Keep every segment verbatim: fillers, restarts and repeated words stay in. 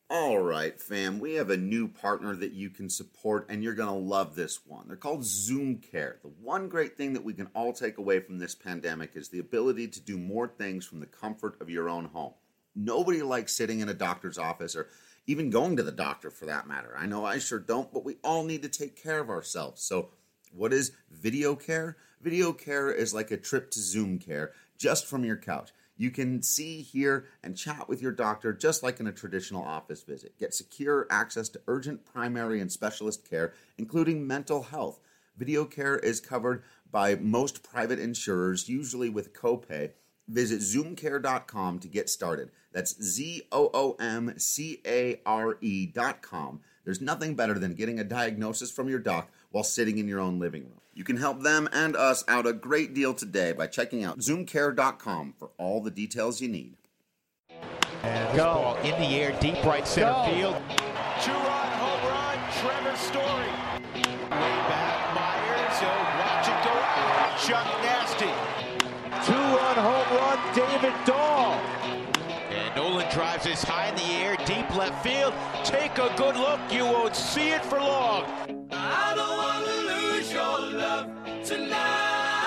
All right, fam, we have a new partner that you can support, and you're going to love this one. They're called Zoom Care. The one great thing that we can all take away from this pandemic is the ability to do more things from the comfort of your own home. Nobody likes sitting in a doctor's office or even going to the doctor for that matter. I know I sure don't, but we all need to take care of ourselves. So what is video care? Video care is like a trip to Zoom Care just from your couch. You can see, hear, and chat with your doctor just like in a traditional office visit. Get secure access to urgent primary and specialist care, including mental health. Video care is covered by most private insurers, usually with copay. Visit zoom care dot com to get started. That's Z O O M C A R E dot com. There's nothing better than getting a diagnosis from your doc while sitting in your own living room. You can help them and us out a great deal today by checking out zoom care dot com for all the details you need. And this ball in the air, deep right center Go. field. Two-run home run, Trevor Story. Way back, Myers, he'll watch it go out. Chuck Nasty. Two-run home run, David Dahl. And Nolan drives this high in the air, deep left field. Take a good look, you won't see it for long. I don't want to lose your love tonight.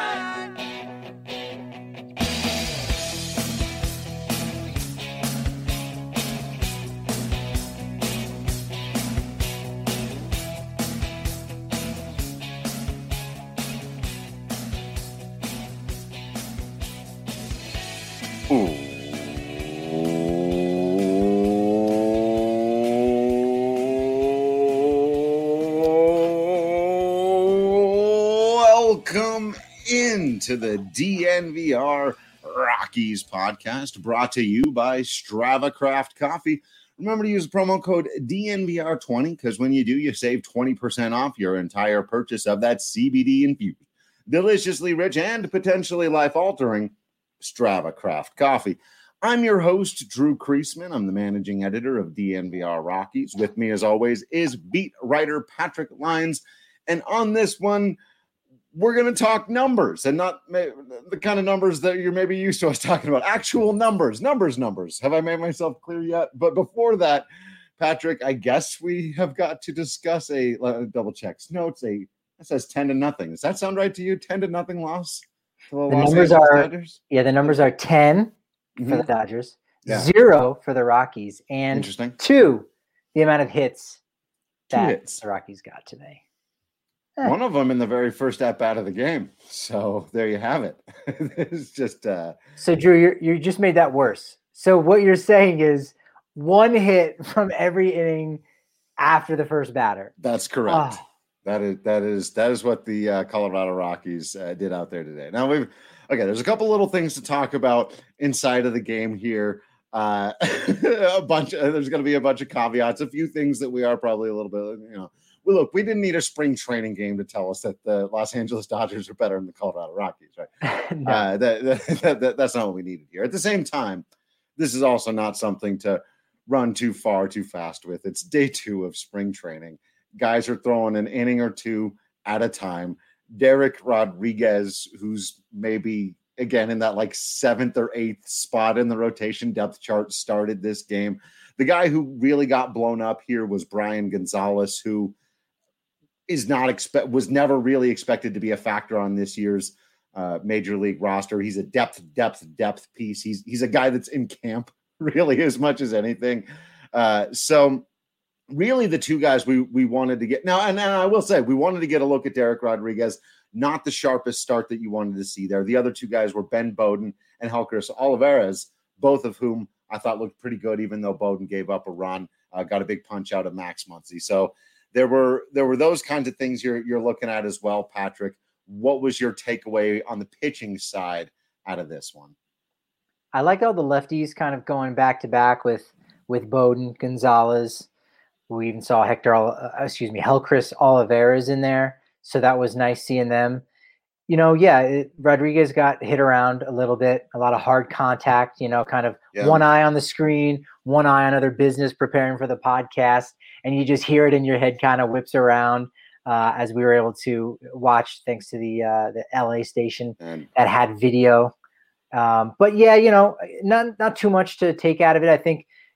Welcome into the D N V R Rockies podcast, brought to you by Strava Craft Coffee. Remember to use promo code D N V R twenty, because when you do, you save twenty percent off your entire purchase of that C B D infused, deliciously rich, and potentially life-altering Strava Craft Coffee. I'm your host, Drew Kreisman. I'm the managing editor of D N V R Rockies. With me, as always, is beat writer Patrick Lyons. And on this one, we're going to talk numbers, and not the kind of numbers that you're maybe used to us talking about. Actual numbers, numbers, numbers. Have I made myself clear yet? But before that, Patrick, I guess we have got to discuss a uh, double checks notes. A it says ten to nothing. Does that sound right to you? Ten to nothing loss. To the The Los numbers Angeles are Dodgers? yeah, the numbers are ten Mhm. for the Dodgers, Yeah. zero for the Rockies, and Interesting. two the amount of hits Two that hits. the Rockies got today. One of them in the very first at bat of the game. So there you have it. It's just uh, So Drew, you you just made that worse. So what you're saying is one hit from every inning after the first batter. that's correct. Oh. That is that is that is what the uh, Colorado Rockies uh, did out there today. Now we've okay. There's a couple little things to talk about inside of the game here. Uh, a bunch. Of, there's going to be a bunch of caveats. A few things that we are probably a little bit. You know, well, look, we didn't need a spring training game to tell us that the Los Angeles Dodgers are better than the Colorado Rockies, right? No. uh, that, that, that, that's not what we needed here. At the same time, this is also not something to run too far, too fast with. It's day two of spring training. Guys are throwing an inning or two at a time. Derek Rodriguez, who's maybe, again, in that like seventh or eighth spot in the rotation depth chart, started this game. The guy who really got blown up here was Brian Gonzalez, who is not expect was never really expected to be a factor on this year's uh, major league roster. He's a depth, depth, depth piece. He's he's a guy that's in camp really as much as anything. Uh, so really the two guys we we wanted to get now, and, and I will say we wanted to get a look at Derek Rodriguez, not the sharpest start that you wanted to see there. The other two guys were Ben Bowden and Helcris Olivares, both of whom I thought looked pretty good, even though Bowden gave up a run, uh, got a big punch out of Max Muncy. So there were there were those kinds of things you're you're looking at as well, Patrick. What was your takeaway on the pitching side out of this one? I like all the lefties kind of going back to back with with Bowden, Gonzalez. We even saw Hector, uh, excuse me, Helcris Olivares in there, so that was nice seeing them. You know, yeah, it, Rodriguez got hit around a little bit, a lot of hard contact. You know, kind of Yeah. one eye on the screen, one eye on other business, preparing for the podcast, and you just hear it in your head, kind of whips around. Uh, as we were able to watch, thanks to the uh, the L A station And that had video. Um, but yeah, you know, not not too much to take out of it. I think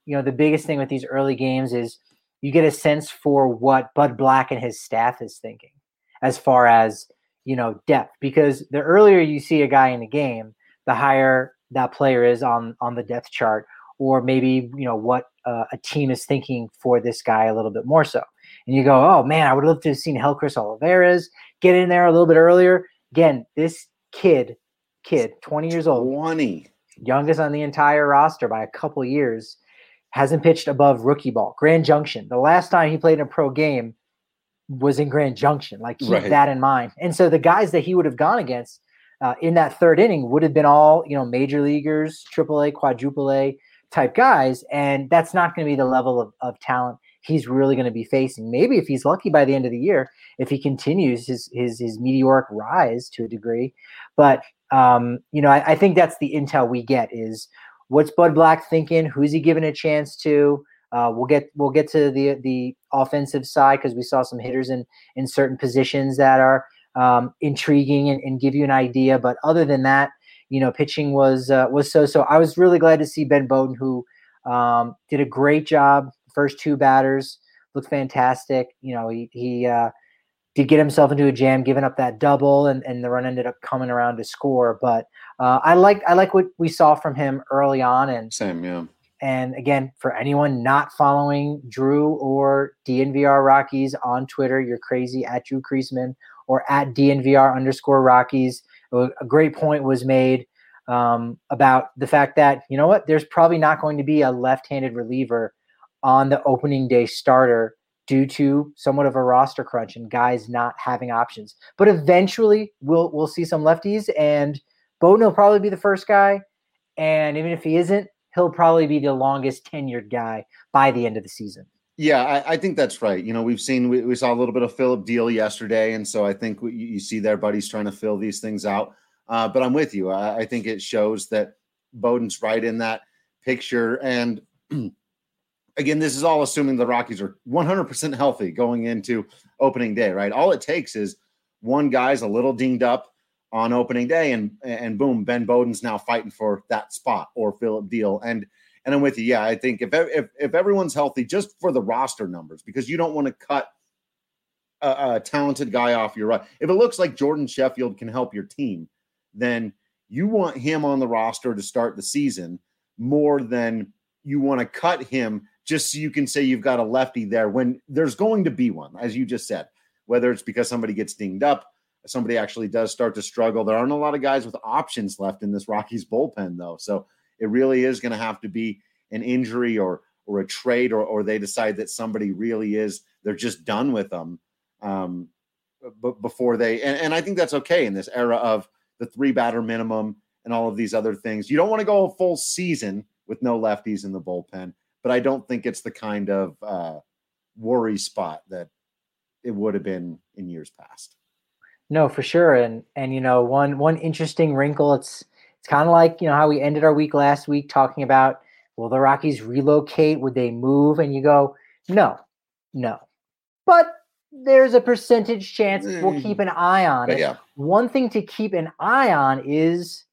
you know, the biggest thing with these early games is you get a sense for what Bud Black and his staff is thinking as far as, you know, depth, because the earlier you see a guy in the game, the higher that player is on, on the depth chart, or maybe, you know, what uh, a team is thinking for this guy a little bit more so. And you go, oh man, I would love to have seen Helcris Olivares get in there a little bit earlier. Again, this kid, kid, twenty years old, twenty, youngest on the entire roster by a couple years, hasn't pitched above rookie ball. Grand Junction. The last time he played in a pro game was in Grand Junction. Like, keep right. that in mind. And so the guys that he would have gone against uh, in that third inning would have been all, you know, major leaguers, triple A, quadruple A type guys. And that's not going to be the level of, of talent he's really going to be facing. Maybe if he's lucky by the end of the year, if he continues his his, his meteoric rise to a degree. But, um, you know, I, I think that's the intel we get is what's Bud Black thinking? Who's he giving a chance to? Uh, we'll get we'll get to the the offensive side because we saw some hitters in in certain positions that are um, intriguing and, and give you an idea. But other than that, you know, pitching was uh, was so so. I was really glad to see Ben Bowden, who um, did a great job. First two batters looked fantastic. You know, he he uh, did get himself into a jam, giving up that double, and, and the run ended up coming around to score. But uh, I like I like what we saw from him early on. And same, yeah. And again, for anyone not following Drew or D N V R Rockies on Twitter, you're crazy, at Drew Kreisman or at D N V R underscore Rockies. A great point was made um, about the fact that, you know what, there's probably not going to be a left-handed reliever on the opening day starter due to somewhat of a roster crunch and guys not having options. But eventually we'll we'll see some lefties, and Bowden will probably be the first guy. And even if he isn't, he'll probably be the longest tenured guy by the end of the season. Yeah, I, I think that's right. You know, we've seen, we, we saw a little bit of Phillip Deal yesterday. And so I think we, you see their buddies trying to fill these things out. Uh, but I'm with you. I, I think it shows that Bowden's right in that picture. And again, this is all assuming the Rockies are one hundred percent healthy going into opening day, right? All it takes is one guy's a little dinged up on opening day, and and boom, Ben Bowden's now fighting for that spot, or Phillip Deal. And and I'm with you. Yeah, I think if if if everyone's healthy, just for the roster numbers, because you don't want to cut a, a talented guy off your right. If it looks like Jordan Sheffield can help your team, then you want him on the roster to start the season more than you want to cut him just so you can say you've got a lefty there when there's going to be one, as you just said, whether it's because somebody gets dinged up, somebody actually does start to struggle. There aren't a lot of guys with options left in this Rockies bullpen, though. So it really is going to have to be an injury or or a trade, or or they decide that somebody really is, they're just done with them um, b- before they, and, and I think that's okay in this era of the three batter minimum and all of these other things. You don't want to go a full season with no lefties in the bullpen, but I don't think it's the kind of uh, worry spot that it would have been in years past. No, for sure. And, and, you know, one, one interesting wrinkle, it's, it's kind of like, you know, how we ended our week last week talking about, will the Rockies relocate? Would they move? And you go, no, no, but there's a percentage chance. We'll keep an eye on But it. yeah. One thing to keep an eye on is,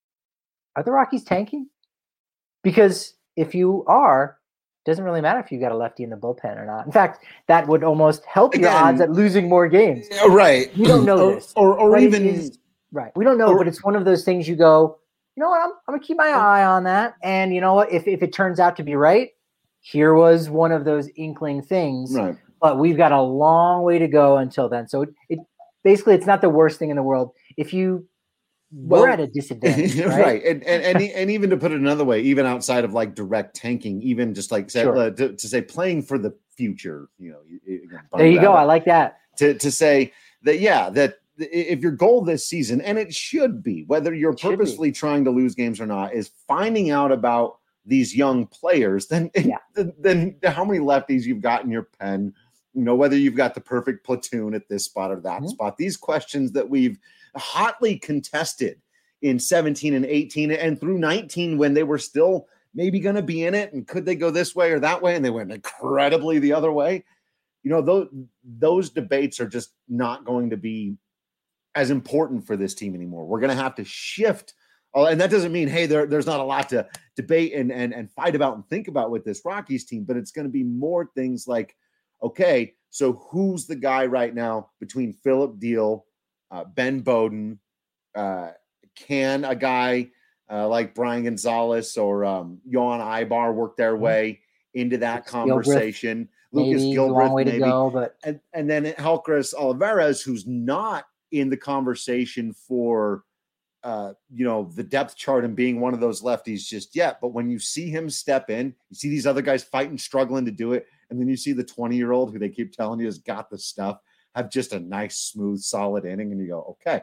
are the Rockies tanking? Because if you are, it doesn't really matter if you got a lefty in the bullpen or not. In fact, that would almost help your Again, odds at losing more games. Yeah, right. We don't know or, this. Or, or But it even is- right. We don't know, or- but it's one of those things you go, you know what, I'm, I'm going to keep my eye on that. And you know what, if, if it turns out to be right, here was one of those inkling things. right. But we've got a long way to go until then. So it, it basically, it's not the worst thing in the world. If you Well, we're at a disadvantage, right? right. And, and and e- and even to put it another way, even outside of like direct tanking, even just like say, Sure. uh, to, to say playing for the future, you know, you- you- again, There you go. I Bump like that. to to say that, yeah, that i- if your goal this season, and it should be, whether you're It should be. purposely trying to lose games or not, is finding out about these young players, then Yeah. then, then how many lefties you've got in your pen, you know, whether you've got the perfect platoon at this spot or that Mhm. spot. These questions that we've hotly contested in seventeen and eighteen and through nineteen, when they were still maybe going to be in it, and could they go this way or that way, and they went incredibly the other way. You know, those those debates are just not going to be as important for this team anymore. We're going to have to shift Oh, and that doesn't mean, hey, there, there's not a lot to debate and, and, and fight about and think about with this Rockies team, but it's going to be more things like, okay, so who's the guy right now between Phillip Diehl, uh, Ben Bowden, uh, can a guy uh, like Brian Gonzalez or um, Yohan Ibar work their way into that Lucas conversation? Gilbreth, Lucas maybe, Gilbreth, a long way maybe. to go, but and, and then Helcris Olivares, who's not in the conversation for uh, you know, the depth chart and being one of those lefties just yet. But when you see him step in, you see these other guys fighting, struggling to do it. And then you see the twenty-year-old who they keep telling you has got the stuff, have just a nice, smooth, solid inning. And you go, okay.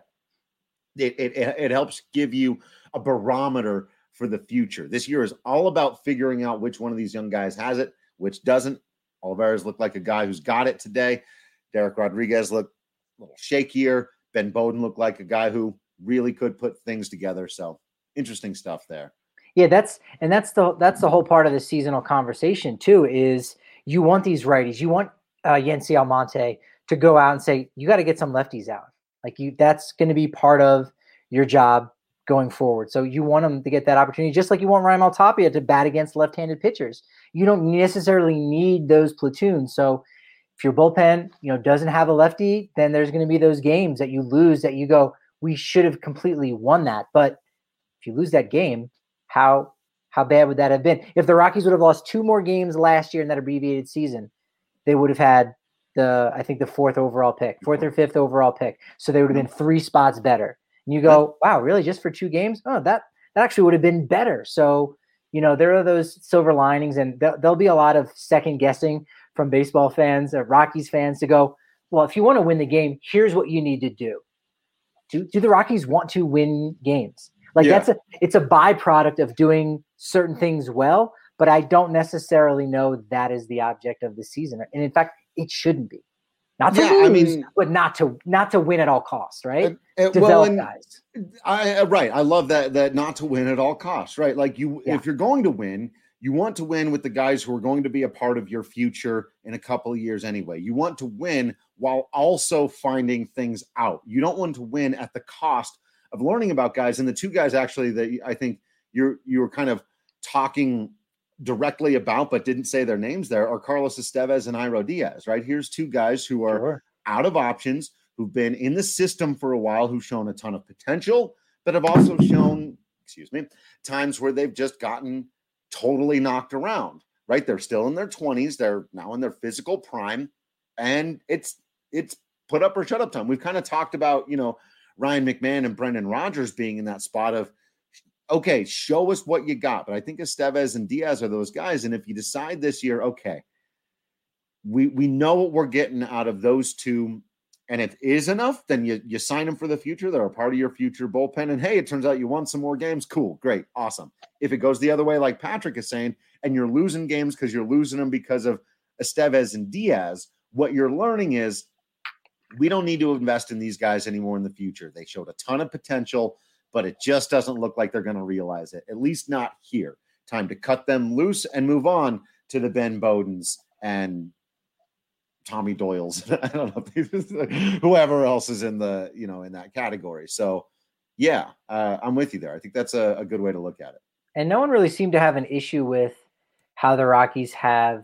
It, it, it helps give you a barometer for the future. This year is all about figuring out which one of these young guys has it, which doesn't. Olivares looked like a guy who's got it today. Derek Rodriguez looked a little shakier. Ben Bowden looked like a guy who really could put things together. So interesting stuff there. Yeah, that's and that's the that's the whole part of the seasonal conversation too. Is you want these righties, you want uh, Yency Almonte to go out and say you got to get some lefties out. Like you, that's going to be part of your job going forward. So you want them to get that opportunity, just like you want Ryan Maltapia to bat against left-handed pitchers. You don't necessarily need those platoons. So if your bullpen, you know, doesn't have a lefty, then there's going to be those games that you lose that you go, we should have completely won that. But if you lose that game, how how bad would that have been? If the Rockies would have lost two more games last year in that abbreviated season, they would have had the, I think the fourth overall pick, fourth or fifth overall pick. So they would have been three spots better. And you go, wow, really? Just for two games? Oh, that, that actually would have been better. So, you know, there are those silver linings, and th- there'll be a lot of second guessing from baseball fans, or Rockies fans, to go, well, if you want to win the game, here's what you need to do. Do, do the Rockies want to win games? Like yeah. that's a, it's a byproduct of doing certain things well, but I don't necessarily know that is the object of the season. And in fact, it shouldn't be. Not to yeah, lose, I mean, but not to not to win at all costs, right? Uh, uh, Develop well, and guys. I uh, right. I love that that not to win at all costs, right? Like you, yeah. if you're going to win, you want to win with the guys who are going to be a part of your future in a couple of years anyway. You want to win while also finding things out. You don't want to win at the cost of learning about guys. And the two guys actually that I think you're you were kind of talking directly about, but didn't say their names there, are Carlos Estevez and Iro Diaz, right? Here's two guys who are Sure. out of options, who've been in the system for a while, who've shown a ton of potential, but have also shown, excuse me, times where they've just gotten totally knocked around, right? They're still in their twenties. They're now in their physical prime, and it's, it's put up or shut up time. We've kind of talked about, you know, Ryan McMahon and Brendan Rodgers being in that spot of, okay, show us what you got. But I think Estevez and Diaz are those guys. And if you decide this year, okay, we we know what we're getting out of those two, and if it is enough, then you you sign them for the future. They're a part of your future bullpen. And hey, it turns out you won some more games. Cool, great, awesome. If it goes the other way, like Patrick is saying, and you're losing games because you're losing them because of Estevez and Diaz, what you're learning is we don't need to invest in these guys anymore in the future. They showed a ton of potential, but it just doesn't look like they're going to realize it, at least not here. Time to cut them loose and move on to the Ben Bowdens and Tommy Doyle's. I don't know, whoever else is in the, you know, in that category. So yeah, uh, I'm with you there. I think that's a, a good way to look at it. And no one really seemed to have an issue with how the Rockies have